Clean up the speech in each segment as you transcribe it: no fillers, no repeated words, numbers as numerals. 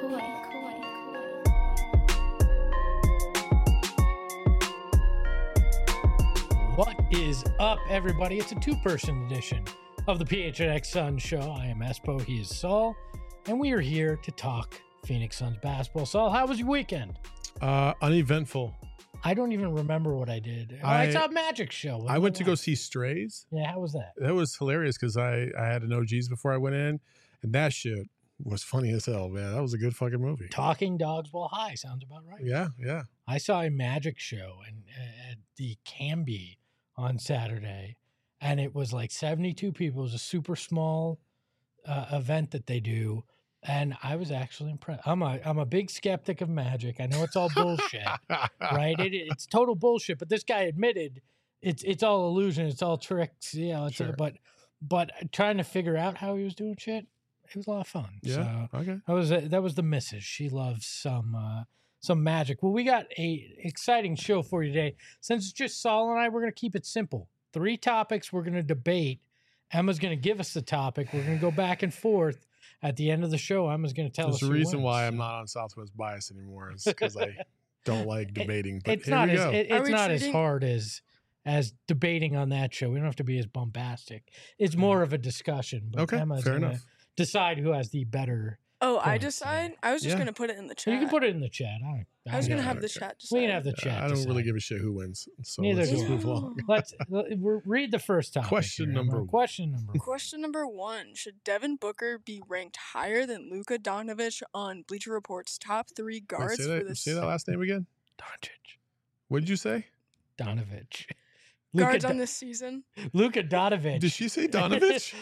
What is up, everybody? It's a two-person edition of the PHNX Suns show. I am Espo, he is Saul, and we are here to talk Phoenix Suns basketball. Saul, how was your weekend? Uneventful. I don't even remember what I did. I saw a magic show. I went to go see Strays. Yeah, how was that? That was hilarious because I had an OGs before I went in, and that shit was funny as hell, man. That was a good fucking movie. Talking Dogs While High sounds about right. Yeah. I saw a magic show at the Canby on Saturday, and it was like 72 people. It was a super small event that they do, and I was actually impressed. I'm a big skeptic of magic. I know it's all bullshit, right? It's total bullshit. But this guy admitted it's all illusion. It's all tricks. Sure. But trying to figure out how he was doing shit, it was a lot of fun. Yeah. So Okay. that was the missus. She loves some magic. Well, we got a exciting show for you today. Since it's just Saul and I, we're going to keep it simple. 3 topics we're going to debate. Emma's going to give us the topic. We're going to go back and forth. At the end of the show, Emma's going to tell us There's a reason wins. why I'm not on Southwest Bias anymore. Is because I don't like debating. But It's here not we as go. it's not as hard as debating on that show. We don't have to be as bombastic. It's more of a discussion. But Okay, Emma's fair gonna enough. decide who has the better. Oh, I points, decide? I was just Yeah. going to put it in the So chat. you can put it in the chat. I was going to Yeah, have the okay. chat decide. We can have the chat. I don't really decide. give a shit who wins. So Neither let's do just we. move along. Let's read the first topic. Question here, number Emma. one. Question number one. Question number 1. Should Devin Booker be ranked higher than Luka Doncic on Bleacher Report's top 3 Wait, guards for this say that last name again. Doncic. What did you say? Donovich. guards on this season? Luka Donovic. Did she say Donovich?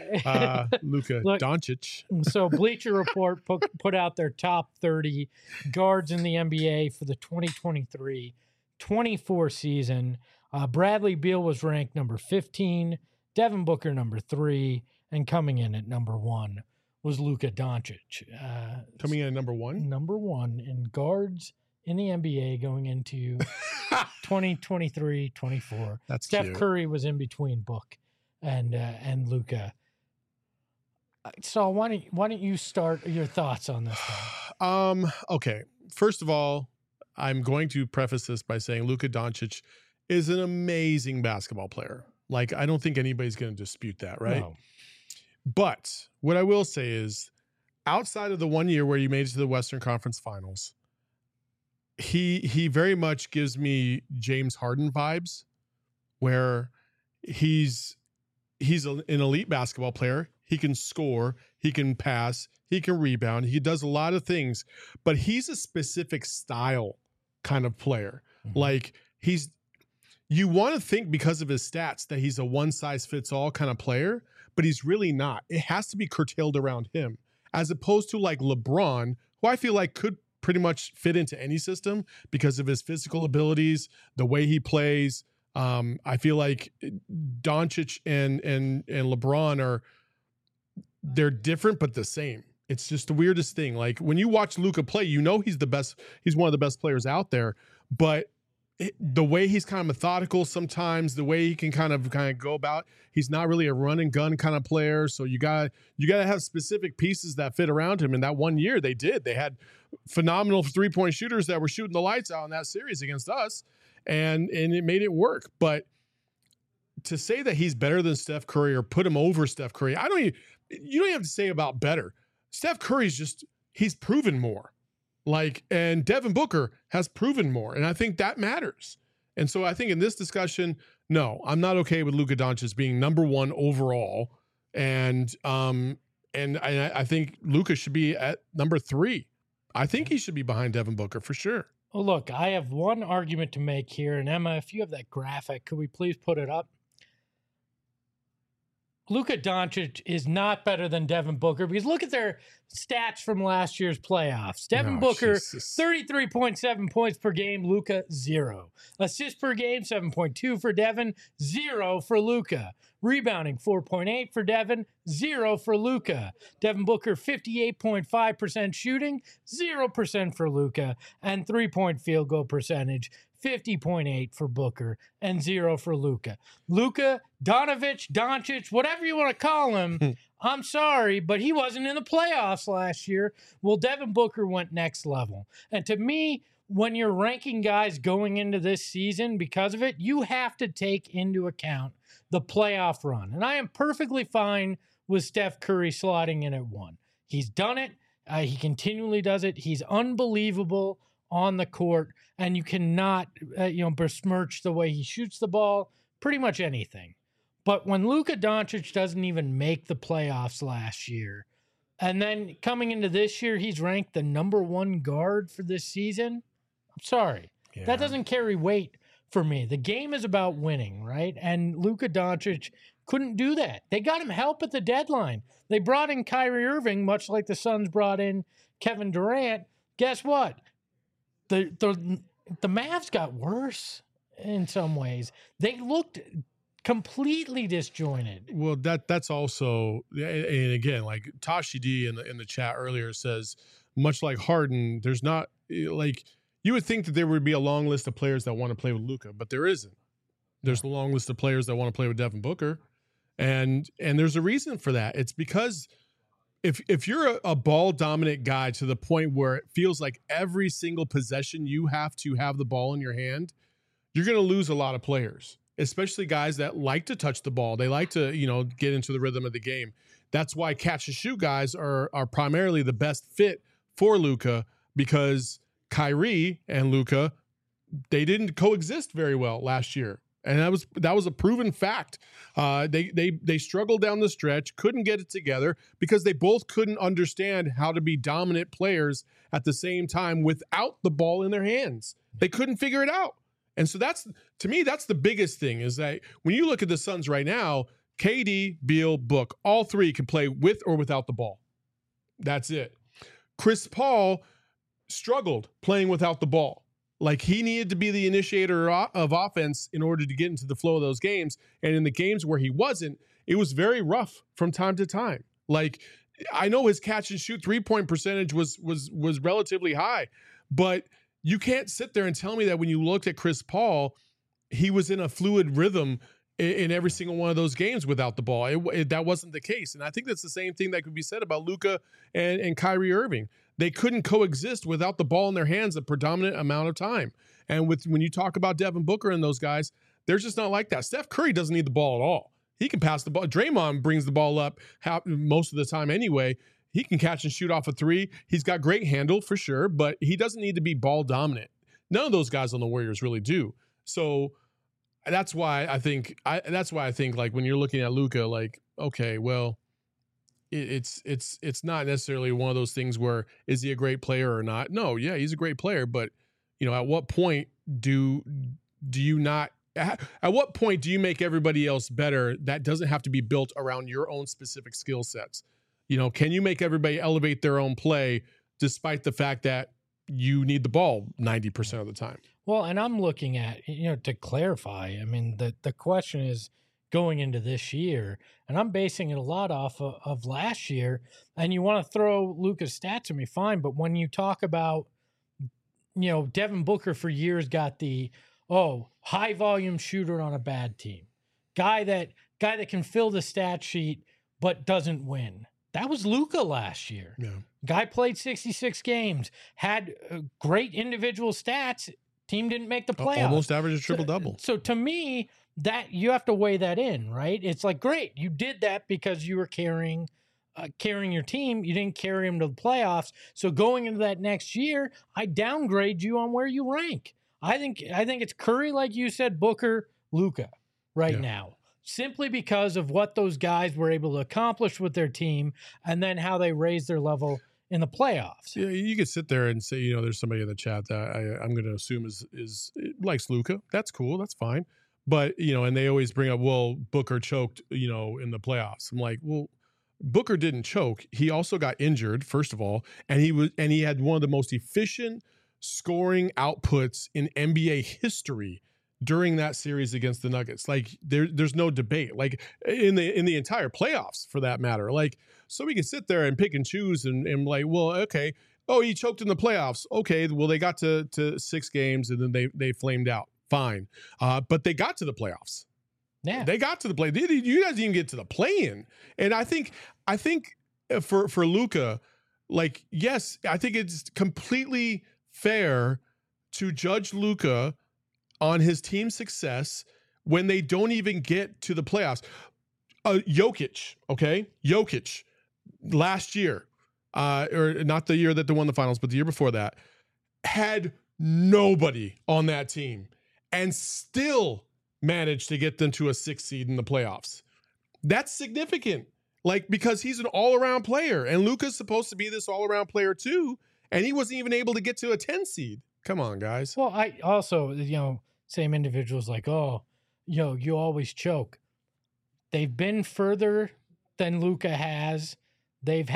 Luka Look, Doncic. So Bleacher Report put out their top 30 guards in the NBA for the 2023-24 season. Bradley Beal was ranked number 15, Devin Booker number 3, and coming in at number 1 was Luka Doncic. Coming in at number 1? Number 1 in guards in the NBA going into 2023-24. That's Steph cute. Curry was in between Book and Luka. So why don't you start your thoughts on this one? Okay. First of all, I'm going to preface this by saying Luka Doncic is an amazing basketball player. Like, I don't think anybody's going to dispute that, right? No. But what I will say is, outside of the 1 year where you made it to the Western Conference Finals, he very much gives me James Harden vibes, where he's an elite basketball player. He can score, he can pass, he can rebound. He does a lot of things, but he's a specific style kind of player. Mhm. Like, you want to think because of his stats that he's a one-size-fits-all kind of player, but he's really not. It has to be curtailed around him, as opposed to like LeBron, who I feel like could pretty much fit into any system because of his physical abilities, the way he plays. I feel like Doncic and LeBron they're different but the same. It's just the weirdest thing. Like, when you watch Luka play, you know he's the best. He's one of the best players out there. But the way he's kind of methodical sometimes, the way he can kind of go about, he's not really a run and gun kind of player. So you got to have specific pieces that fit around him. And that 1 year they did. They had phenomenal 3-point shooters that were shooting the lights out in that series against us, and it made it work. But to say that he's better than Steph Curry or put him over Steph Curry, you don't even have to say about better. Steph Curry's he's proven more. Like, and Devin Booker has proven more. And I think that matters. And so I think in this discussion, no, I'm not okay with Luka Doncic being number 1 overall. And I think Luka should be at number 3. I think he should be behind Devin Booker for sure. Well, look, I have one argument to make here. And Emma, if you have that graphic, could we please put it up? Luka Doncic is not better than Devin Booker because look at their stats from last year's playoffs. Devin Oh, Booker, Jesus. 33.7 points per game. Luka, 0. Assists per game, 7.2 for Devin, 0 for Luka. Rebounding, 4.8 for Devin, 0 for Luka. Devin Booker, 58.5% shooting, 0% for Luka. And 3-point field goal percentage, 50.8 for Booker and 0 for Luka. Luka, Doncic, whatever you want to call him, I'm sorry, but he wasn't in the playoffs last year. Well, Devin Booker went next level. And to me, when you're ranking guys going into this season because of it, you have to take into account the playoff run. And I am perfectly fine with Steph Curry slotting in at 1. He's done it. He continually does it. He's unbelievable on the court, and you cannot, besmirch the way he shoots the ball, pretty much anything. But when Luka Doncic doesn't even make the playoffs last year, and then coming into this year, he's ranked the number 1 guard for this season, I'm sorry. Yeah. That doesn't carry weight for me. The game is about winning, right? And Luka Doncic couldn't do that. They got him help at the deadline. They brought in Kyrie Irving, much like the Suns brought in Kevin Durant. Guess what? The Mavs got worse in some ways. They looked completely disjointed. Well, that's also, and again, like Tashi D in the chat earlier says, much like Harden, there's not like you would think that there would be a long list of players that want to play with Luka, but there isn't. There's a long list of players that want to play with Devin Booker. And there's a reason for that. It's because if you're a ball dominant guy to the point where it feels like every single possession you have to have the ball in your hand, you're going to lose a lot of players, especially guys that like to touch the ball. They like to, get into the rhythm of the game. That's why catch and shoot guys are primarily the best fit for Luka, because Kyrie and Luka, they didn't coexist very well last year. And that was a proven fact. They struggled down the stretch, couldn't get it together because they both couldn't understand how to be dominant players at the same time without the ball in their hands. They couldn't figure it out. And so to me, that's the biggest thing, is that when you look at the Suns right now, KD, Beal, Book, all three can play with or without the ball. That's it. Chris Paul struggled playing without the ball. Like, he needed to be the initiator of offense in order to get into the flow of those games. And in the games where he wasn't, it was very rough from time to time. Like, I know his catch and shoot 3-point percentage was relatively high, but you can't sit there and tell me that when you looked at Chris Paul, he was in a fluid rhythm in every single one of those games without the ball. That wasn't the case. And I think that's the same thing that could be said about Luka and Kyrie Irving. They couldn't coexist without the ball in their hands a predominant amount of time. And when you talk about Devin Booker and those guys, they're just not like that. Steph Curry doesn't need the ball at all. He can pass the ball. Draymond brings the ball up most of the time anyway. He can catch and shoot off a three. He's got great handle for sure, but he doesn't need to be ball dominant. None of those guys on the Warriors really do. So that's why I think like when you're looking at Luka, like, okay, well, it's not necessarily one of those things where is he a great player or not? No, yeah, he's a great player, but at what point do you not? At what point do you make everybody else better? That doesn't have to be built around your own specific skill sets. Can you make everybody elevate their own play despite the fact that you need the ball 90% of the time? Well, and I'm looking at, to clarify, I mean, the question is going into this year, and I'm basing it a lot off of last year, and you want to throw Luka's stats at me, fine, but when you talk about, Devin Booker for years got the, high volume shooter on a bad team, guy that can fill the stat sheet but doesn't win. That was Luka last year. Yeah. Guy played 66 games, had great individual stats. Team didn't make the playoffs. Almost averaged a triple-double. So to me, that you have to weigh that in, right? It's like, great, you did that because you were carrying your team. You didn't carry them to the playoffs. So going into that next year, I downgrade you on where you rank. I think it's Curry, like you said, Booker, Luka now. Simply because of what those guys were able to accomplish with their team and then how they raised their level in the playoffs. Yeah, you could sit there and say, there's somebody in the chat that I'm going to assume is likes Luka. That's cool. That's fine. But, and they always bring up, well, Booker choked, in the playoffs. I'm like, well, Booker didn't choke. He also got injured, first of all, and he had one of the most efficient scoring outputs in NBA history during that series against the Nuggets. Like, there's no debate. Like, in the entire playoffs, for that matter. Like, so we can sit there and pick and choose and like, well, okay, he choked in the playoffs. Okay, well, they got to 6 games and then they flamed out. Fine. But they got to the playoffs. Yeah. They got to the play. You guys didn't even get to the play-in. And I think for Luka, like, yes, I think it's completely fair to judge Luka on his team's success when they don't even get to the playoffs. Jokic, okay? Jokic, last year, or not the year that they won the finals, but the year before that, had nobody on that team and still managed to get them to a 6 seed in the playoffs. That's significant. Like, because he's an all-around player, and Luka's supposed to be this all-around player too, and he wasn't even able to get to a 10 seed. Come on, guys. Well, I also, same individuals like, oh, you always choke. They've been further than Luka has. They've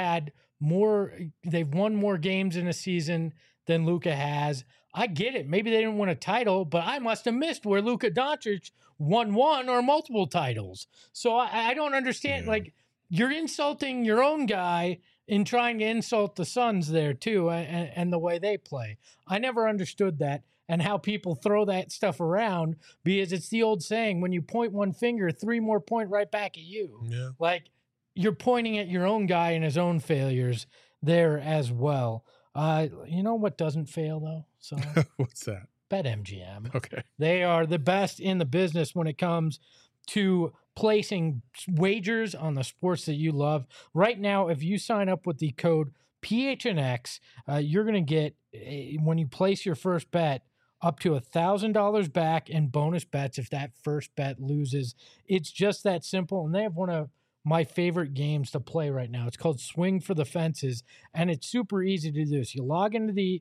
won more games in a season than Luka has. I get it. Maybe they didn't win a title, but I must have missed where Luka Doncic won one or multiple titles. So I don't understand. Yeah. Like, you're insulting your own guy in trying to insult the Suns there too, and the way they play. I never understood that and how people throw that stuff around, because it's the old saying, when you point one finger, 3 more point right back at you. Yeah. Like, you're pointing at your own guy and his own failures there as well. You know what doesn't fail though? So what's that? BetMGM. Okay. They are the best in the business when it comes to placing wagers on the sports that you love. Right now, if you sign up with the code PHNX, you're going to get, when you place your first bet, up to $1,000 back in bonus bets if that first bet loses. It's just that simple. And they have one of my favorite games to play right now. It's called Swing for the Fences, and it's super easy to do. So you log into the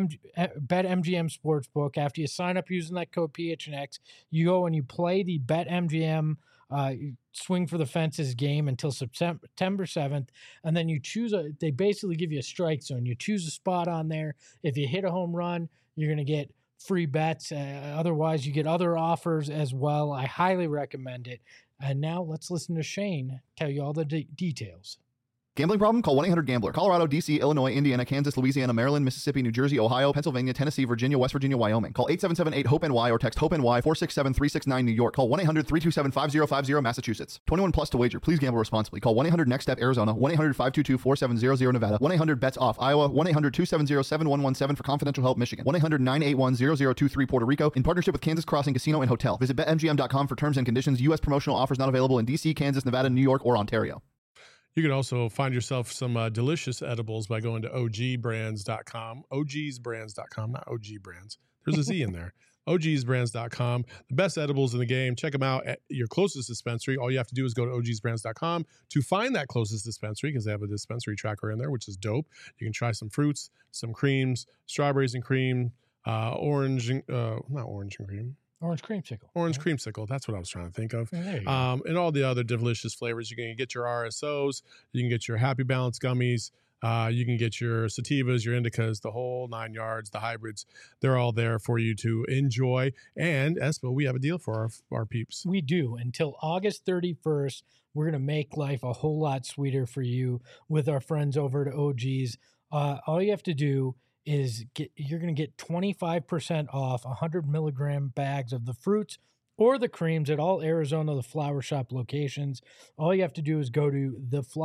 BetMGM Sportsbook. After you sign up using that code PHNX, you go and you play the BetMGM Swing for the Fences game until September 7th, and then you choose they basically give you a strike zone. You choose a spot on there. If you hit a home run, you're going to get free bets. Otherwise, you get other offers as well. I highly recommend it. And now let's listen to Shane tell you all the details. Gambling problem? Call 1-800-GAMBLER. Colorado, D.C., Illinois, Indiana, Kansas, Louisiana, Maryland, Mississippi, New Jersey, Ohio, Pennsylvania, Tennessee, Virginia, West Virginia, Wyoming. Call 877-8-HOPE-NY or text HOPE-NY 467-369 New York. Call 1-800-327-5050 Massachusetts. 21 plus to wager. Please gamble responsibly. Call 1-800-NEXT-STEP Arizona. 1-800-522-4700 Nevada. 1-800-BETS-OFF Iowa. 1-800-270-7117 for confidential help Michigan. 1-800-981-0023 Puerto Rico. In partnership with Kansas Crossing Casino and Hotel. Visit BetMGM.com for terms and conditions. U.S. promotional offers not available in D.C., Kansas, Nevada, New York, or Ontario. You can also find yourself some delicious edibles by going to ogbrands.com. ogsbrands.com, not OG Brands. There's a Z in there. ogsbrands.com. The best edibles in the game. Check them out at your closest dispensary. All you have to do is go to ogsbrands.com to find that closest dispensary, because they have a dispensary tracker in there, which is dope. You can try some fruits, some creams, strawberries and cream, orange creamsicle. Orange creamsicle. That's what I was trying to think of. And all the other delicious flavors. You can get your RSOs. You can get your Happy Balance gummies. You can get your sativas, your indicas, the whole 9 yards, the hybrids. They're all there for you to enjoy. And, Espo, we have a deal for our peeps. We do. Until August 31st, we're going to make life a whole lot sweeter for you with our friends over at OG's. All you have to do is you're going to get 25% off 100 milligram bags of the fruits or the creams at all Arizona The Flower Shop locations. All you have to do is go to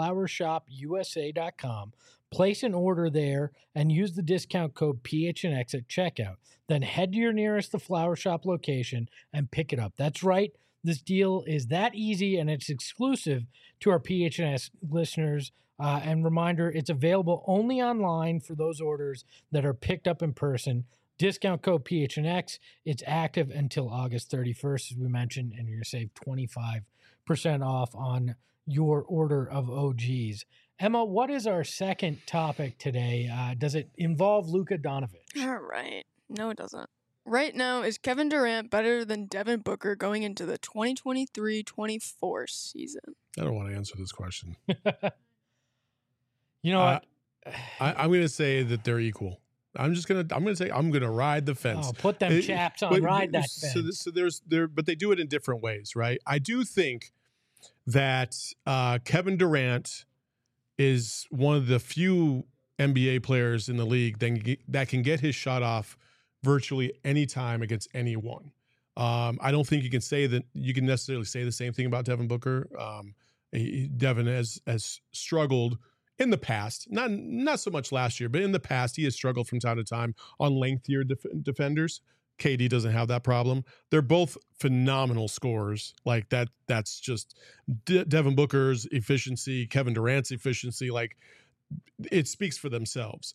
theflowershopusa.com, place an order there, and use the discount code PHNX at checkout. Then head to your nearest The Flower Shop location and pick it up. That's right. This deal is that easy, and it's exclusive to our PHNX listeners. And reminder, it's available only online for those orders that are picked up in person. Discount code PHNX. It's active until August 31st, as we mentioned, and you're going to save 25% off on your order of OGs. Emma, what is our second topic today? Does it involve Luka Doncic? All right. No, it doesn't. Right now, is Kevin Durant better than Devin Booker going into the 2023-24 season? I don't want to answer this question. You know what? I'm going to say that they're equal. I'm going to ride the fence. Oh, put them chaps on, ride that fence. So but they do it in different ways, right? I do think that Kevin Durant is one of the few NBA players in the league that can get his shot off virtually any time against anyone. I don't think you can necessarily say the same thing about Devin Booker. Devin has struggled in the past, not so much last year, but in the past, he has struggled from time to time on lengthier defenders. KD doesn't have that problem. They're both phenomenal scorers. Like that's just Devin Booker's efficiency, Kevin Durant's efficiency. Like it speaks for themselves.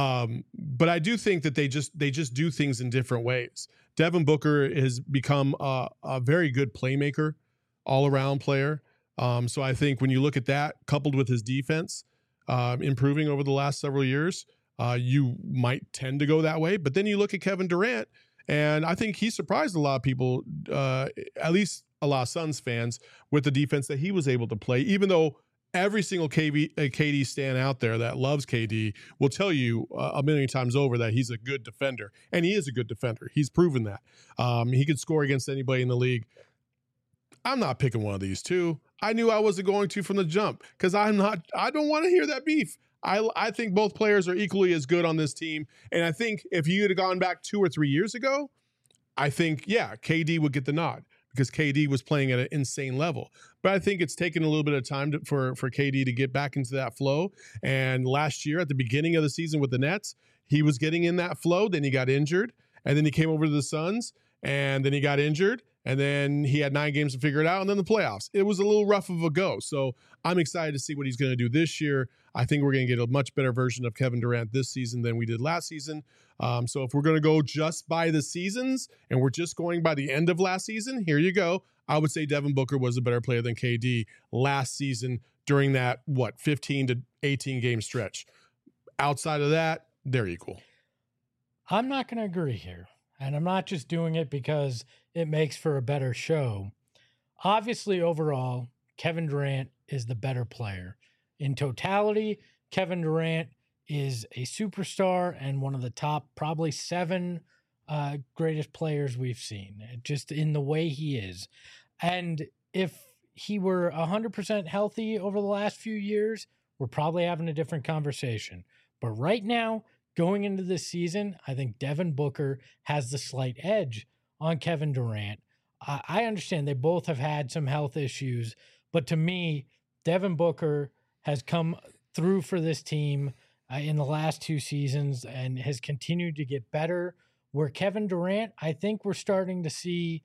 But I do think that they just do things in different ways. Devin Booker has become a very good playmaker, all around player. So I think when you look at that coupled with his defense improving over the last several years, you might tend to go that way. But then you look at Kevin Durant, and I think he surprised a lot of people, at least a lot of Suns fans, with the defense that he was able to play, even though every single KD stan out there that loves KD will tell you a million times over that he's a good defender. And he is a good defender. He's proven that. He could score against anybody in the league. I'm not picking one of these two. I knew I wasn't going to from the jump because I don't want to hear that beef. I think both players are equally as good on this team. And I think if you had gone back 2 or 3 years ago, I think, yeah, KD would get the nod because KD was playing at an insane level. But I think it's taken a little bit of time for KD to get back into that flow. And last year at the beginning of the season with the Nets, he was getting in that flow. Then he got injured. And then he came over to the Suns. And then he got injured. And then he had 9 games to figure it out. And then the playoffs. It was a little rough of a go. So I'm excited to see what he's going to do this year. I think we're going to get a much better version of Kevin Durant this season than we did last season. So if we're going to go just by the seasons and we're just going by the end of last season, here you go. I would say Devin Booker was a better player than KD last season during that, 15 to 18 game stretch. Outside of that, they're equal. I'm not going to agree here. And I'm not just doing it because it makes for a better show. Obviously, overall, Kevin Durant is the better player. In totality, Kevin Durant is a superstar and one of the top probably 7 greatest players we've seen, just in the way he is. And if he were 100% healthy over the last few years, we're probably having a different conversation. But right now, going into this season, I think Devin Booker has the slight edge on Kevin Durant. I understand they both have had some health issues, but to me, Devin Booker has come through for this team in the last 2 seasons and has continued to get better. Where Kevin Durant, I think we're starting to see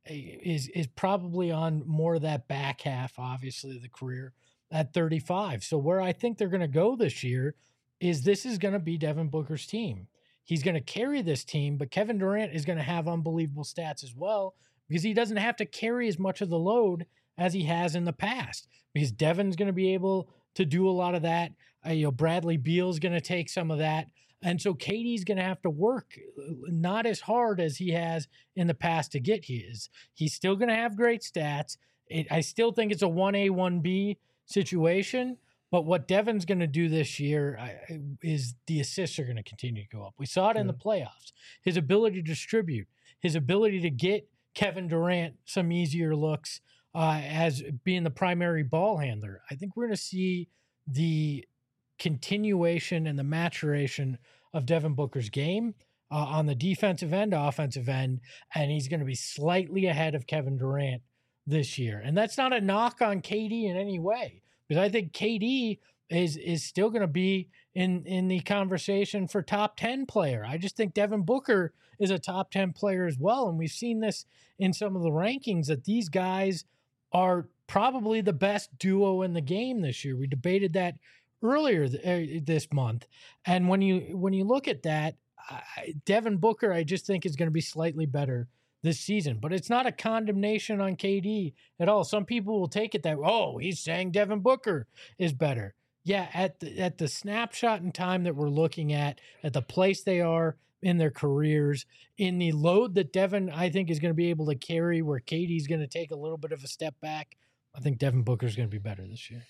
is probably on more of that back half, obviously, of the career at 35. So where I think they're going to go this year is this is going to be Devin Booker's team. He's going to carry this team, but Kevin Durant is going to have unbelievable stats as well because he doesn't have to carry as much of the load as he has in the past because Devin's going to be able to do a lot of that. Bradley Beal's going to take some of that. And so KD's going to have to work not as hard as he has in the past to get his. He's still going to have great stats. I still think it's a 1A, 1B situation. But what Devin's going to do this year is the assists are going to continue to go up. We saw it in the playoffs. His ability to distribute, his ability to get Kevin Durant some easier looks as being the primary ball handler. I think we're going to see the continuation and the maturation of Devin Booker's game on the defensive end, offensive end, and he's going to be slightly ahead of Kevin Durant this year. And that's not a knock on KD in any way. Because I think KD is still going to be in the conversation for top 10 player. I just think Devin Booker is a top 10 player as well. And we've seen this in some of the rankings that these guys are probably the best duo in the game this year. We debated that earlier this month. And when you look at that, Devin Booker, I just think is going to be slightly better this season, but it's not a condemnation on KD at all. Some people will take it that, oh, he's saying Devin Booker is better. Yeah, at the snapshot in time that we're looking at the place they are in their careers, in the load that Devin, I think, is going to be able to carry, where KD's going to take a little bit of a step back, I think Devin Booker is going to be better this year.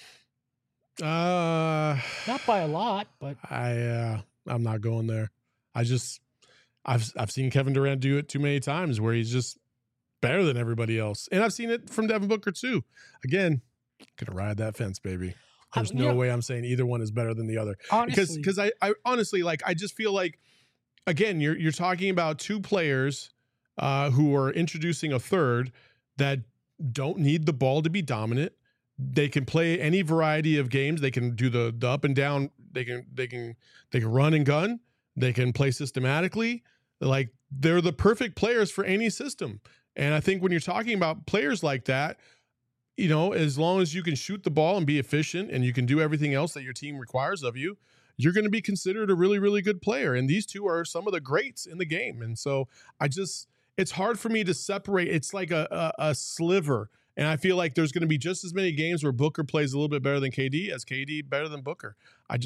Not by a lot, but I'm not going there. I've seen Kevin Durant do it too many times where he's just better than everybody else. And I've seen it from Devin Booker too. Again, gonna ride that fence, baby. There's no way I'm saying either one is better than the other. Honestly, Because I honestly, like, I just feel like, again, you're talking about 2 players who are introducing a third that don't need the ball to be dominant. They can play any variety of games. They can do the up and down. They can run and gun. They can play systematically. Like, they're the perfect players for any system. And I think when you're talking about players like that, you know, as long as you can shoot the ball and be efficient and you can do everything else that your team requires of you, you're going to be considered a really, really good player. And these two are some of the greats in the game. And so it's hard for me to separate. It's like a sliver. And I feel like there's going to be just as many games where Booker plays a little bit better than KD as KD better than Booker.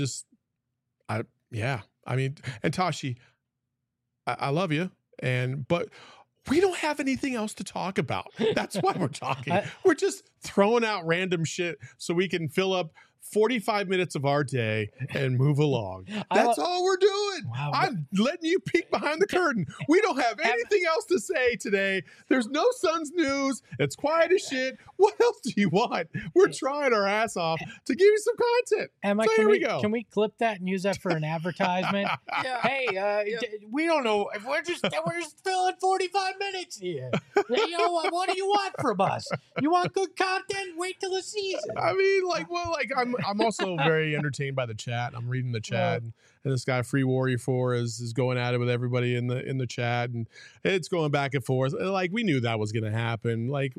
Yeah. I mean, and Tashi, I love you. But we don't have anything else to talk about. That's why we're talking. We're just throwing out random shit so we can fill up 45 minutes of our day and move along. That's all we're doing. Wow. I'm letting you peek behind the curtain. We don't have anything else to say today. There's no Suns news. It's quiet as shit. What else do you want? We're trying our ass off to give you some content. Emma, so here we go. Can we clip that and use that for an advertisement? Yeah. Hey, we don't know. We're just filling 45 minutes here. You know, what do you want from us? You want good content? Wait till the season. I mean, I'm also very entertained by the chat. I'm reading the chat, and this guy Free Warrior 4 is going at it with everybody in the chat, and it's going back and forth. Like, we knew that was going to happen. Like,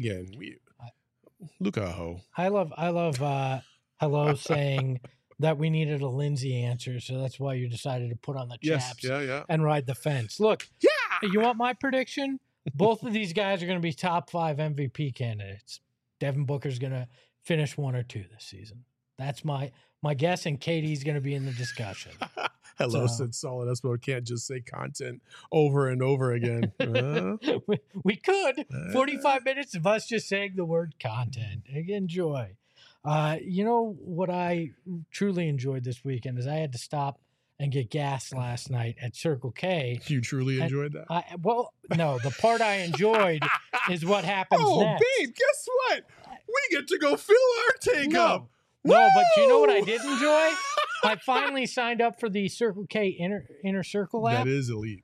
Luka Ho. I love Hello saying that we needed a Lindsay answer, so that's why you decided to put on the chaps and ride the fence. Look, you want my prediction? Both of these guys are going to be top 5 MVP candidates. Devin Booker's going to finish 1 or 2 this season. That's my guess, and KD's going to be in the discussion. Hello, said Solid Espo. Can't just say content over and over again. We could. 45 minutes of us just saying the word content. Enjoy. You know what I truly enjoyed this weekend is I had to stop and get gas last night at Circle K. You truly enjoyed that? No. The part I enjoyed is what happens next. Babe, guess what? We get to go fill our tank up. No, but do you know what I did enjoy? I finally signed up for the Circle K Inner Circle app. That is elite.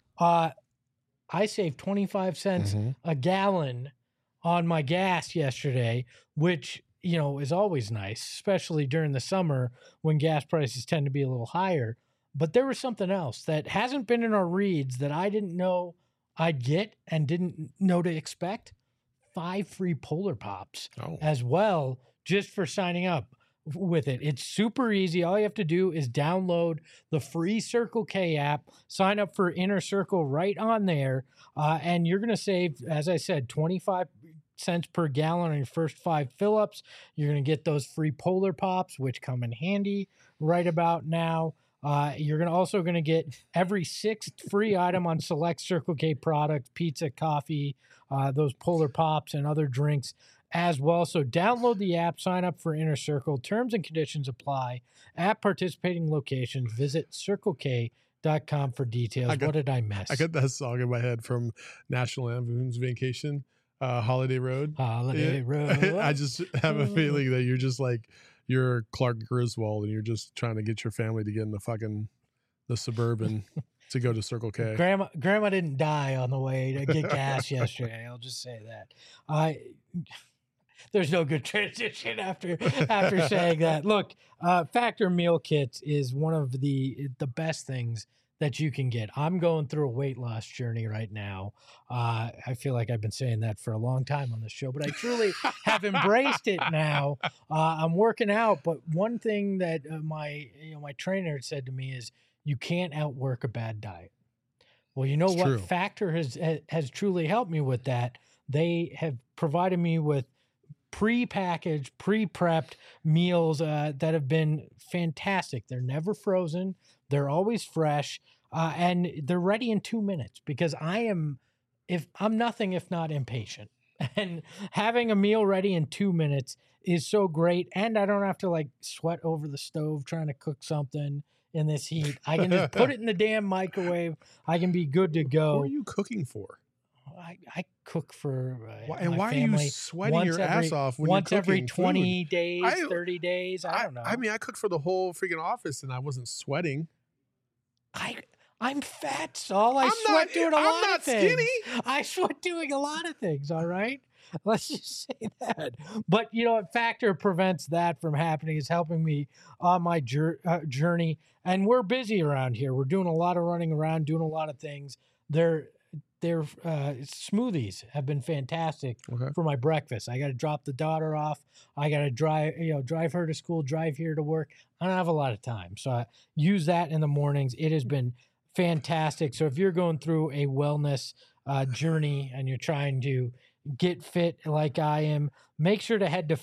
I saved 25 cents a gallon on my gas yesterday, which, you know, is always nice, especially during the summer when gas prices tend to be a little higher. But there was something else that hasn't been in our reads that I didn't know I'd get and didn't know to expect. 5 free Polar Pops as well, just for signing up with it. It's super easy. All you have to do is download the free Circle K app, sign up for Inner Circle right on there, and you're going to save, as I said, 25 cents per gallon on your first 5 fill-ups. You're going to get those free Polar Pops, which come in handy right about now. You're also going to get every 6th free item on select Circle K products, pizza, coffee, those Polar Pops, and other drinks as well. So download the app, sign up for Inner Circle. Terms and conditions apply. At participating locations, visit CircleK.com for details. What did I miss? I got that song in my head from National Lampoon's Vacation, Holiday Road. Holiday Road. I just have a feeling that you're just like, you're Clark Griswold and you're just trying to get your family to get in the Suburban to go to Circle K. Grandma didn't die on the way to get gas yesterday. I'll just say that. There's no good transition after saying that. Look, Factor meal kits is one of the best things that you can get. I'm going through a weight loss journey right now. I feel like I've been saying that for a long time on the show, but I truly have embraced it now. I'm working out, but one thing that my trainer said to me is, you can't outwork a bad diet. Well, you know what? True. Factor has truly helped me with that. They have provided me with pre-packaged, pre-prepped meals that have been fantastic. They're never frozen. They're always fresh, and they're ready in 2 minutes because I'm nothing if not impatient. And having a meal ready in 2 minutes is so great, and I don't have to like sweat over the stove trying to cook something in this heat. I can just put it in the damn microwave. I can be good to go. What are you cooking for? I cook for and my why family are you sweating your ass off when once you're every cooking 20 food? days, 30 days. I don't know. I mean, I cooked for the whole freaking office and I wasn't sweating. I'm fat, Saul. I I'm sweat not- doing a I'm lot not of things. skinny. I sweat doing a lot of things, all right? Let's just say that. But, you know, a factor prevents that from happening is helping me on my journey. And we're busy around here. We're doing a lot of running around, doing a lot of things. Their smoothies have been fantastic Okay. for my breakfast. I got to drop the daughter off. I got to drive her to school, drive here to work. I don't have a lot of time. So I use that in the mornings. It has been fantastic. So if you're going through a wellness journey and you're trying to get fit like I am, make sure to head to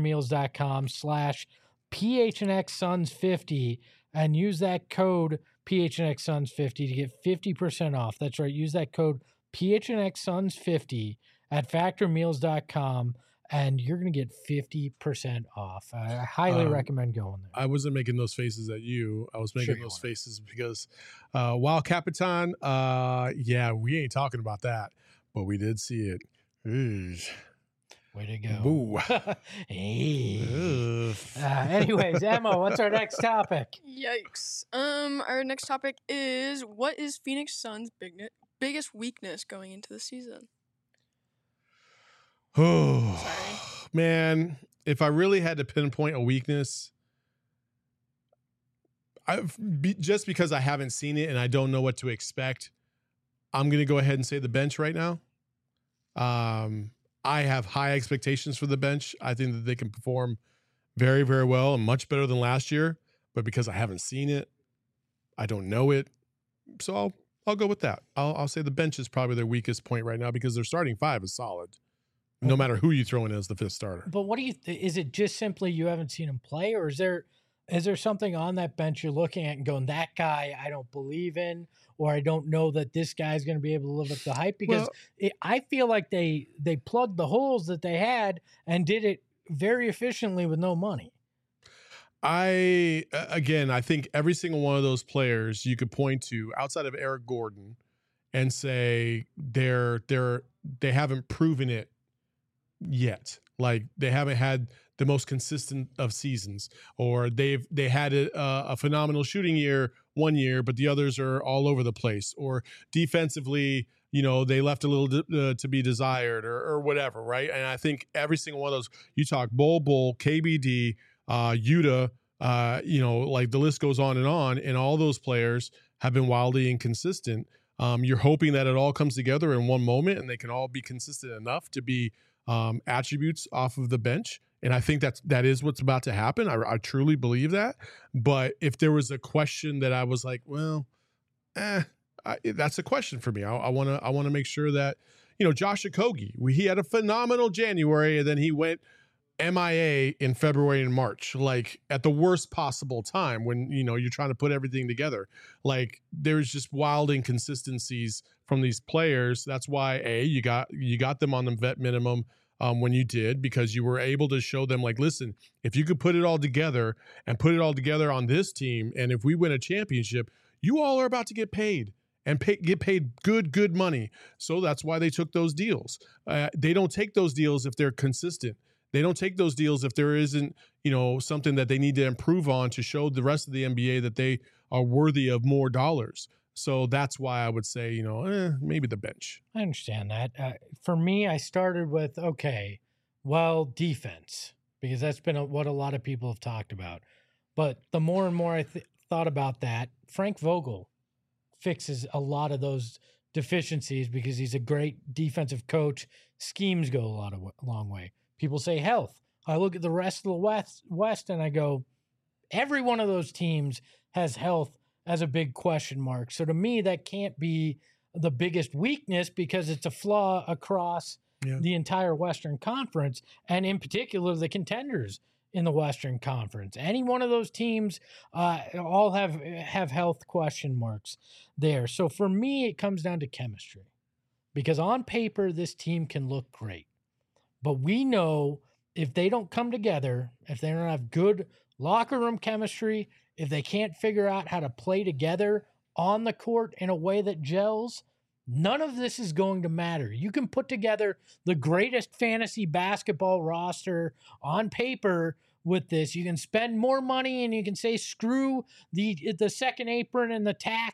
factormeals.com/PHNXSons50 and use that code PHNXSons50 to get 50% off. That's right. Use that code PHNXSons50 at factormeals.com and you're going to get 50% off. I highly recommend going there. I wasn't making those faces at you. I was making you those weren't. faces because while Capitan, yeah, we ain't talking about that, but we did see it. Ugh. Way to go. Boo. Hey. Ugh. Anyways, Emma, what's our next topic? Yikes. Our next topic is, what is Phoenix Suns' biggest weakness going into the season? Oh, Sorry. man, if I really had to pinpoint a weakness, just because I haven't seen it and I don't know what to expect, I'm going to go ahead and say the bench right now. I have high expectations for the bench. I think that they can perform very, very well and much better than last year. But because I haven't seen it, I don't know it. So I'll go with that. I'll say the bench is probably their weakest point right now because their starting five is solid, no matter who you throw in as the fifth starter. But what do you is it just simply you haven't seen him play, or is there something on that bench you're looking at and going, that guy I don't believe in, or I don't know that this guy's going to be able to live up to the hype? Because I feel like they plugged the holes that they had and did it very efficiently with no money. I think every single one of those players you could point to outside of Eric Gordon and say they haven't proven it yet. Like they haven't had the most consistent of seasons, or they had a phenomenal shooting year one year, but the others are all over the place, or defensively, they left a little to be desired or whatever. Right. And I think every single one of those, you talk Bol, KBD, Yuta, like the list goes on, and all those players have been wildly inconsistent. You're hoping that it all comes together in one moment and they can all be consistent enough to be attributes off of the bench. And I think that is what's about to happen. I truly believe that. But if there was a question that I was like, well, that's a question for me. I want to make sure that, Josh Okogie, he had a phenomenal January and then he went MIA in February and March, like at the worst possible time when, you're trying to put everything together. Like there's just wild inconsistencies from these players. That's why you got them on the vet minimum when you did, because you were able to show them like, listen, if you could put it all together and put it all together on this team, and if we win a championship, you all are about to get paid and get paid good money. So that's why they took those deals. They don't take those deals if they're consistent. They don't take those deals if there isn't, something that they need to improve on to show the rest of the NBA that they are worthy of more dollars. So that's why I would say, maybe the bench. I understand that. For me, I started with, defense, because that's been what a lot of people have talked about. But the more and more I thought about that, Frank Vogel fixes a lot of those deficiencies because he's a great defensive coach. Schemes go a long way. People say health. I look at the rest of the West and I go, every one of those teams has health as a big question mark. So to me, that can't be the biggest weakness because it's a flaw across the entire Western Conference, and in particular, the contenders in the Western Conference. Any one of those teams all have health question marks there. So for me, it comes down to chemistry, because on paper, this team can look great. But we know if they don't come together, if they don't have good locker room chemistry, if they can't figure out how to play together on the court in a way that gels, none of this is going to matter. You can put together the greatest fantasy basketball roster on paper with this. You can spend more money and you can say, screw the second apron and the tax,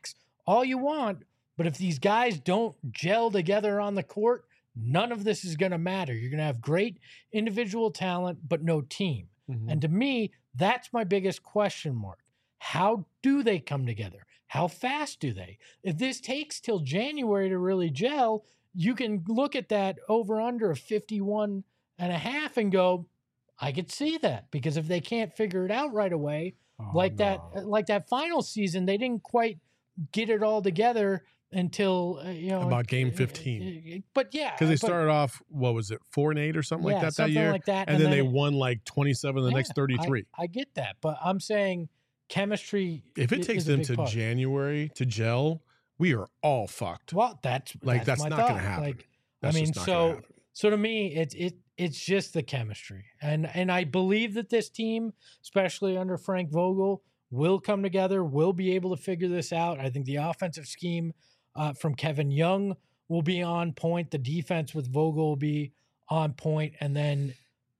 all you want, but if these guys don't gel together on the court, none of this is going to matter. You're going to have great individual talent, but no team. Mhm. And to me, that's my biggest question mark. How do they come together? How fast do they? If this takes till January to really gel, you can look at that over under of 51 and a half and go, I could see that, because if they can't figure it out right away, like that final season, they didn't quite get it all together until about game 15. But yeah, Because they started off, what was it, 4-8 or something like that something year, like that, and then they won like 27 the next 33. I get that, but I'm saying chemistry. If it takes is a them big to part. January to gel, we are all fucked. Well, that's Like, my that's not thought. gonna happen. Like, That's I mean, just not gonna happen. so to me, it's just the chemistry, and I believe that this team, especially under Frank Vogel, will come together, will be able to figure this out. I think the offensive scheme from Kevin Young will be on point. The defense with Vogel will be on point, and then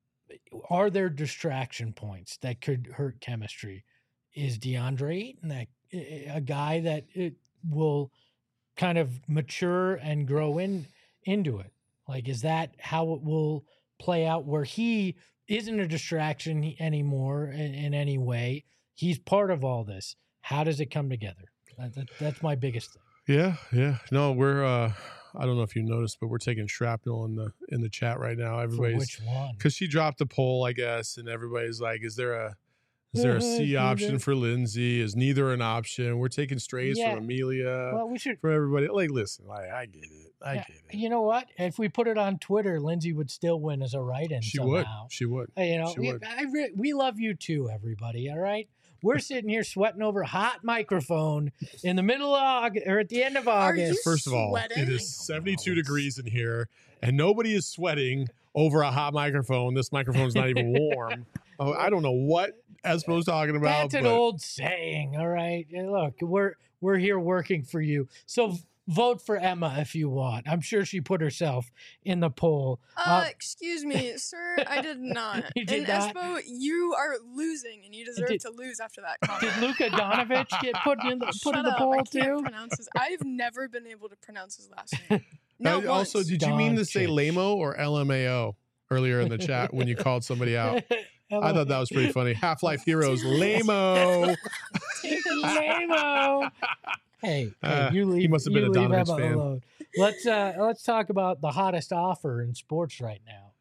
are there distraction points that could hurt chemistry? Is DeAndre Ayton a guy that it will kind of mature and grow into it? Like, is that how it will play out, where he isn't a distraction anymore in any way? He's part of all this. How does it come together? That's my biggest thing. Yeah. No, we're I don't know if you noticed, but we're taking shrapnel in the chat right now. For Everybody's, which one? because she dropped the poll, I guess, and everybody's like, is there a C option for Lindsay? Is neither an option? We're taking strays Yeah. from Amelia, Well, we should. for everybody. Like, listen, I get it. I Yeah, get it. You know what? If we put it on Twitter, Lindsay would still win as a write-in. She somehow. would. She would. You know, She would. we love you too, everybody. All right, we're sitting here sweating over a hot microphone in the middle of August, or at the end of Are you August. First of all, sweating? it I is don't 72 know. degrees in here, and nobody is sweating over a hot microphone. This microphone's not even warm. Oh, I don't know what Espo's talking about. That's an but old saying. All right, and look, we're here working for you. So vote for Emma if you want. I'm sure she put herself in the poll. Excuse me, sir. I did not. You did and not? Espo, you are losing, and you deserve Did- to lose after that Did comment. Luka Donovich get put in Shut the up, poll I can't too? pronounce his. I've never been able to pronounce his last name. No, also, did you mean to say Doncic. LAMO or LMAO earlier in the chat when you called somebody out? I thought that was pretty funny. Half-Life Heroes, LAMO. Lame-o. Hey, you leave. he must have been you a leave Donovich Emma fan. alone. Let's talk about the hottest offer in sports right now.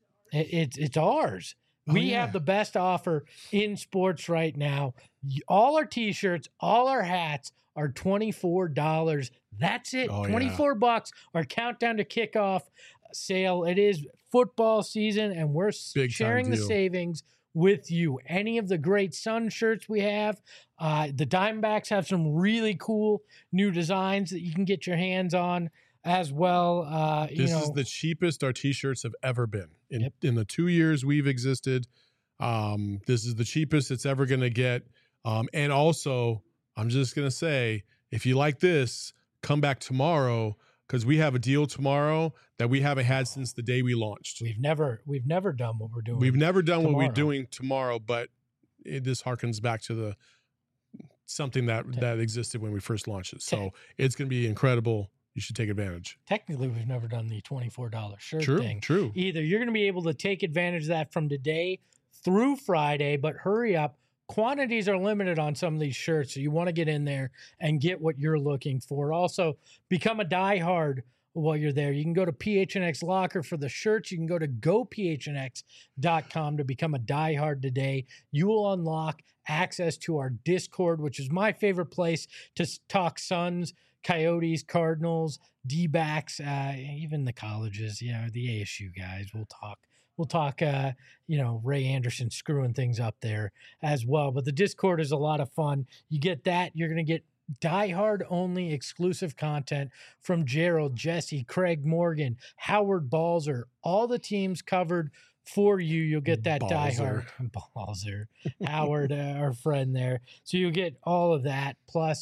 It's ours. Oh, We yeah. have the best offer in sports right now. All our T-shirts, all our hats are $24. That's it. Oh, yeah. $24. Our countdown to kickoff sale. It is football season, and we're Big time sharing the deal. savings with you. Any of the great Sun shirts we have, the Diamondbacks have some really cool new designs that you can get your hands on as well. This is the cheapest our T-shirts have ever been in Yep. in the 2 years we've existed. This is the cheapest it's ever going to get. And also, I'm just going to say, if you like this, come back tomorrow, because we have a deal tomorrow that we haven't had since the day we launched. we've never done what we're doing. We've never done what we're tomorrow. doing tomorrow, but this harkens back to something that existed when we first launched it. So it's going to be incredible. You should take advantage. Technically, we've never done the $24 shirt True, thing. true. Either you're going to be able to take advantage of that from today through Friday, but hurry up. Quantities are limited on some of these shirts, so you want to get in there and get what you're looking for. Also, become a diehard while you're there. You can go to PHNX Locker for the shirts. You can go to gophnx.com to become a diehard today. You will unlock access to our Discord, which is my favorite place to talk Suns, Coyotes, Cardinals, D-backs, even the colleges, the ASU guys. We'll talk, Ray Anderson screwing things up there as well. But the Discord is a lot of fun. You get that. You're going to get diehard only exclusive content from Gerald, Jesse, Craig Morgan, Howard Balzer, all the teams covered for you. You'll get that diehard Balzer, Howard, our friend there. So you'll get all of that plus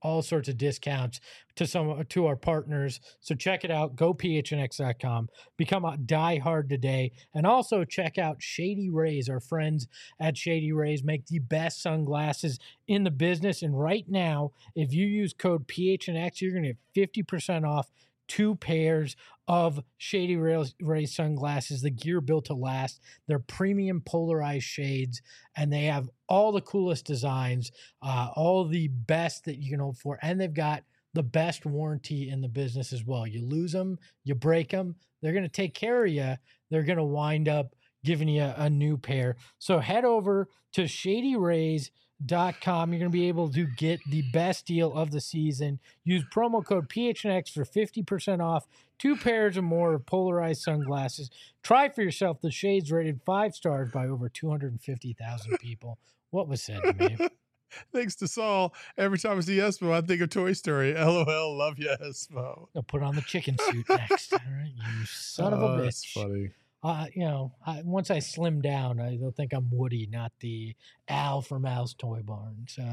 all sorts of discounts to our partners. So check it out. Go phnx.com. Become a diehard today. And also check out Shady Rays. Our friends at Shady Rays make the best sunglasses in the business. And right now, if you use code PHNX, you're going to get 50% off 2 pairs of Shady Rays sunglasses, the gear built to last. They're premium polarized shades, and they have all the coolest designs, all the best that you can hope for, and they've got the best warranty in the business as well. You lose them, you break them, they're going to take care of you. They're going to wind up giving you a new pair. So head over to ShadyRays.com. You're going to be able to get the best deal of the season. Use promo code PHNX for 50% off 2 pairs or more of polarized sunglasses. Try for yourself the shades rated 5 stars by over 250,000 people. What was said to me? Thanks to Saul. Every time I see Espo, I think of Toy Story. LOL, love you, Espo. I'll put on the chicken suit next. All right, you son of a bitch. That's funny. Once I slim down, they'll think I'm Woody, not the Al from Al's Toy Barn. So,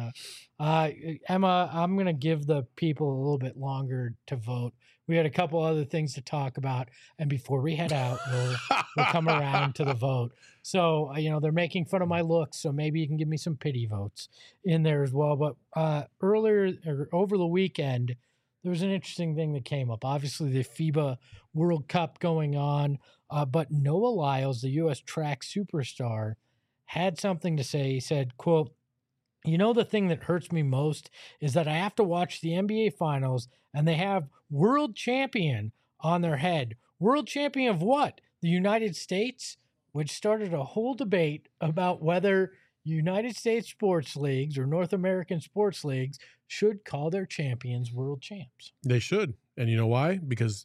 Emma, I'm going to give the people a little bit longer to vote. We had a couple other things to talk about. And before we head out, we'll come around to the vote. So, they're making fun of my looks, so maybe you can give me some pity votes in there as well. But over the weekend, there was an interesting thing that came up. Obviously, the FIBA World Cup going on. But Noah Lyles, the U.S. track superstar, had something to say. He said, quote, the thing that hurts me most is that I have to watch the NBA Finals and they have world champion on their head. World champion of what? The United States? Which started a whole debate about whether United States sports leagues or North American sports leagues should call their champions world champs. They should. And you know why? Because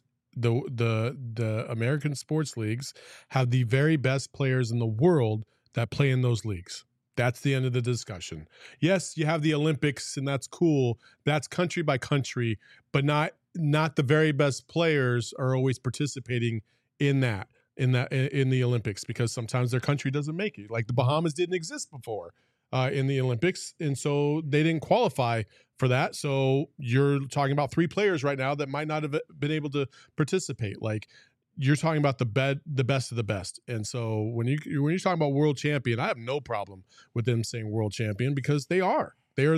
the American sports leagues have the very best players in the world that play in those leagues. That's the end of the discussion. Yes, you have the Olympics, and that's cool. That's country by country, but not the very best players are always participating in the Olympics, because sometimes their country doesn't make it. Like the Bahamas didn't exist before in the Olympics, and so they didn't qualify for that. So you're talking about 3 players right now that might not have been able to participate. Like you're talking about the best of the best. And so when you're talking about world champion, I have no problem with them saying world champion, because they are.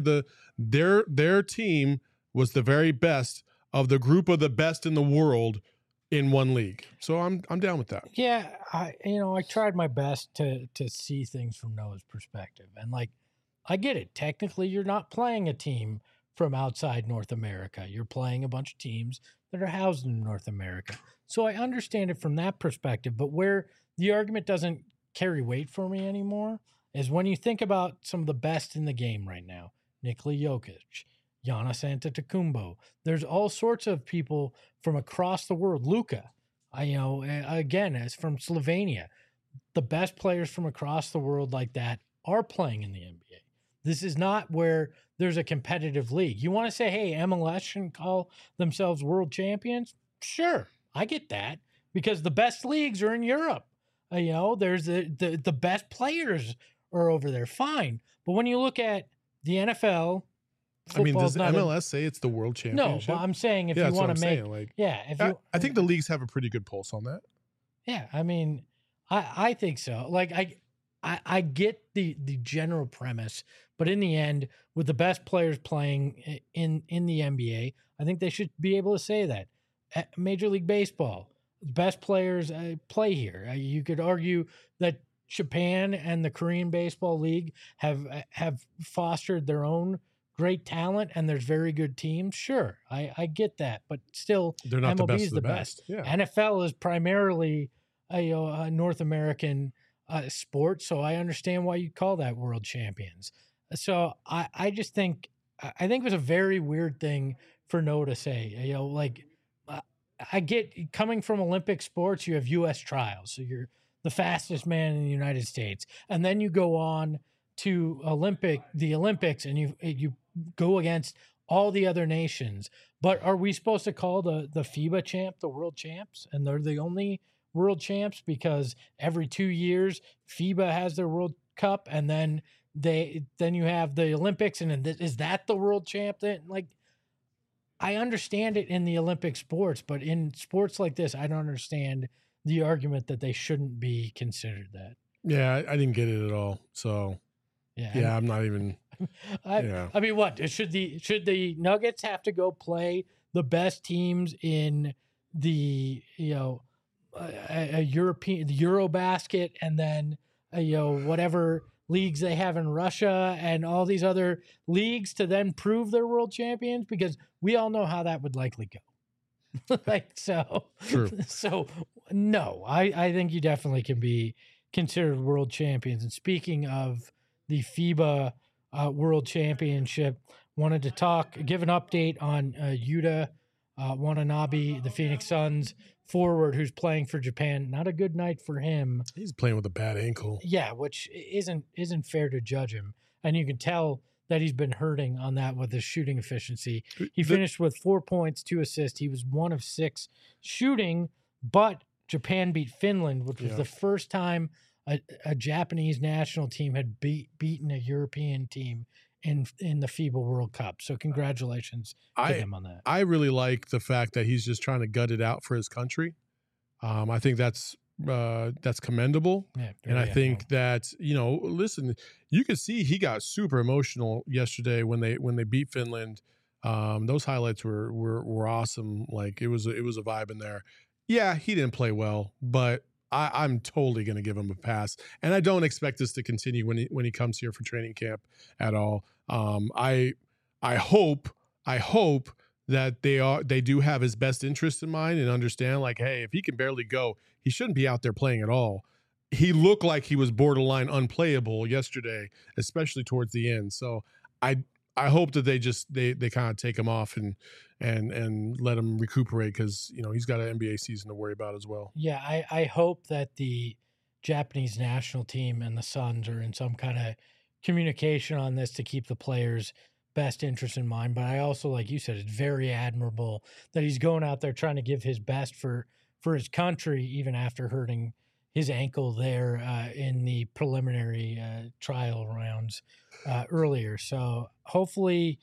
Their team was the very best of the group of the best in the world in one league. So I'm down with that. Yeah, I tried my best to see things from Noah's perspective. And I get it. Technically, you're not playing a team from outside North America. You're playing a bunch of teams that are housed in North America. So I understand it from that perspective. But where the argument doesn't carry weight for me anymore is when you think about some of the best in the game right now. Nikola Jokic, Giannis Antetokounmpo. There's all sorts of people from across the world. Luka, again, as from Slovenia. The best players from across the world like that are playing in the NBA. This is not where there's a competitive league. You want to say, hey, MLS shouldn't call themselves world champions? Sure, I get that, because the best leagues are in Europe. There's the best players are over there. Fine. But when you look at the NFL, does MLS say it's the world championship? No, but I'm saying if you want to make, I think the leagues have a pretty good pulse on that. Yeah, I think so. I get the general premise, but in the end, with the best players playing in the NBA, I think they should be able to say that. Major League Baseball, the best players play here. You could argue that Japan and the Korean Baseball League have fostered their own great talent, and there's very good teams. Sure, I get that, but still, they're not MLB the best is of the best. Yeah. NFL is primarily a North American sport, so I understand why you call that world champions. So I just think it was a very weird thing for Noah to say. I get, coming from Olympic sports, you have U.S. trials, so you're the fastest man in the United States, and then you go on to the Olympics, and you go against all the other nations. But are we supposed to call the FIBA champ the world champs, and they're the only world champs because every 2 years FIBA has their World Cup, and then then you have the Olympics, and then is that the world champ? Like, I understand it in the Olympic sports, but in sports like this, I don't understand the argument that they shouldn't be considered that. Yeah, I didn't get it at all. So yeah, I'm not even. I mean, what should the Nuggets have to go play the best teams in the a European, the Eurobasket, and then whatever leagues they have in Russia and all these other leagues to then prove they're world champions? Because we all know how that would likely go. True. So no, I think you definitely can be considered world champions. And speaking of the FIBA World Championship, wanted to give an update on Yuta Watanabe, the Phoenix Suns forward who's playing for Japan. Not a good night for him. He's playing with a bad ankle. Yeah, which isn't fair to judge him. And you can tell that he's been hurting on that with his shooting efficiency. He finished with 4 points, 2 assists. He was 1 of 6 shooting, but Japan beat Finland, which was the first time a Japanese national team had beaten a European team in the FIBA World Cup. So congratulations to him on that. I really like the fact that he's just trying to gut it out for his country. I think that's commendable. Yeah, and I think that, listen, you could see he got super emotional yesterday when they beat Finland. Those highlights were awesome. Like it was a vibe in there. Yeah, he didn't play well, but I'm totally going to give him a pass, and I don't expect this to continue when he comes here for training camp at all. I hope that they do have his best interest in mind and understand, like, hey, if he can barely go, he shouldn't be out there playing at all. He looked like he was borderline unplayable yesterday, especially towards the end. So I hope that they kind of take him off and let him recuperate, because he's got an NBA season to worry about as well. Yeah, I hope that the Japanese national team and the Suns are in some kind of communication on this to keep the players' best interest in mind. But I also, like you said, it's very admirable that he's going out there trying to give his best for his country, even after hurting his ankle there in the preliminary trial rounds earlier. So hopefully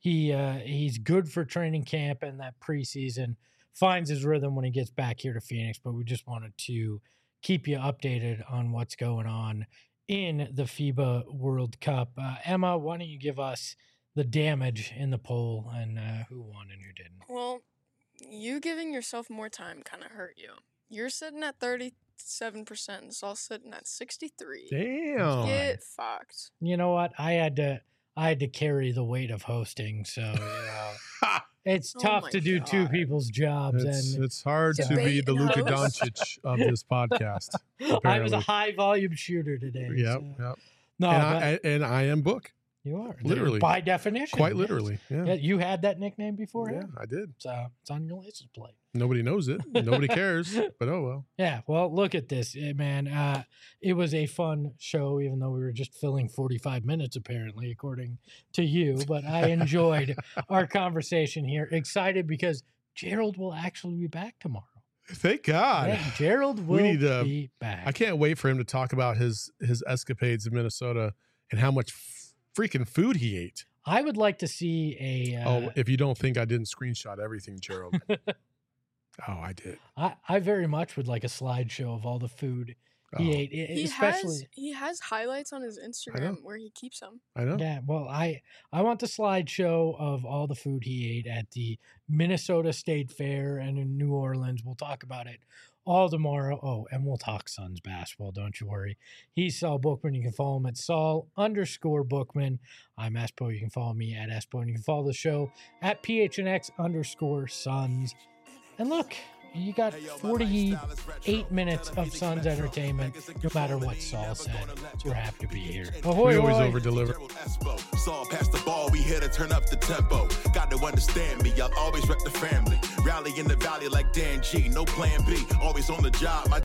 he's good for training camp and that preseason, finds his rhythm when he gets back here to Phoenix. But we just wanted to keep you updated on what's going on in the FIBA World Cup. Emma, why don't you give us the damage in the poll and who won and who didn't? Well, you giving yourself more time kind of hurt you. You're sitting at 37%. It's all sitting at 63%. Damn. Get fucked. You know what? I had to carry the weight of hosting, so it's tough to do two people's jobs. It's hard to be the Luka Doncic of this podcast. Apparently. I was a high volume shooter today. Yep. No, and I am Book. You are literally, by definition, quite literally. Yeah, you had that nickname before. Yeah, I did. So it's on your license plate. Nobody knows it. Nobody cares. But oh well. Yeah. Well, look at this, man. It was a fun show, even though we were just filling 45 minutes, apparently, according to you. But I enjoyed our conversation here. Excited because Gerald will actually be back tomorrow. Thank God. Yeah, Gerald will be back. I can't wait for him to talk about his escapades in Minnesota and how much freaking food he ate. I would like to see a... if you don't think I didn't screenshot everything, Gerald. Oh, I did. I very much would like a slideshow of all the food he ate. He has highlights on his Instagram where he keeps them. I know. Yeah, well, I want the slideshow of all the food he ate at the Minnesota State Fair and in New Orleans. We'll talk about it all tomorrow. Oh, and we'll talk Suns basketball. Don't you worry. He's Saul Bookman. You can follow him at Saul_Bookman. I'm Espo. You can follow me at Espo. And you can follow the show at PHNX_Suns. And look, you got 48 minutes of Suns entertainment, no matter what Saul said. So we're happy to be here. Ahoy, we always over-deliver. Saul pass the ball, we here to turn up the tempo. Got to understand me, I'll always rep the family. Rally in the valley like Dan G, no plan B. Always on the job, my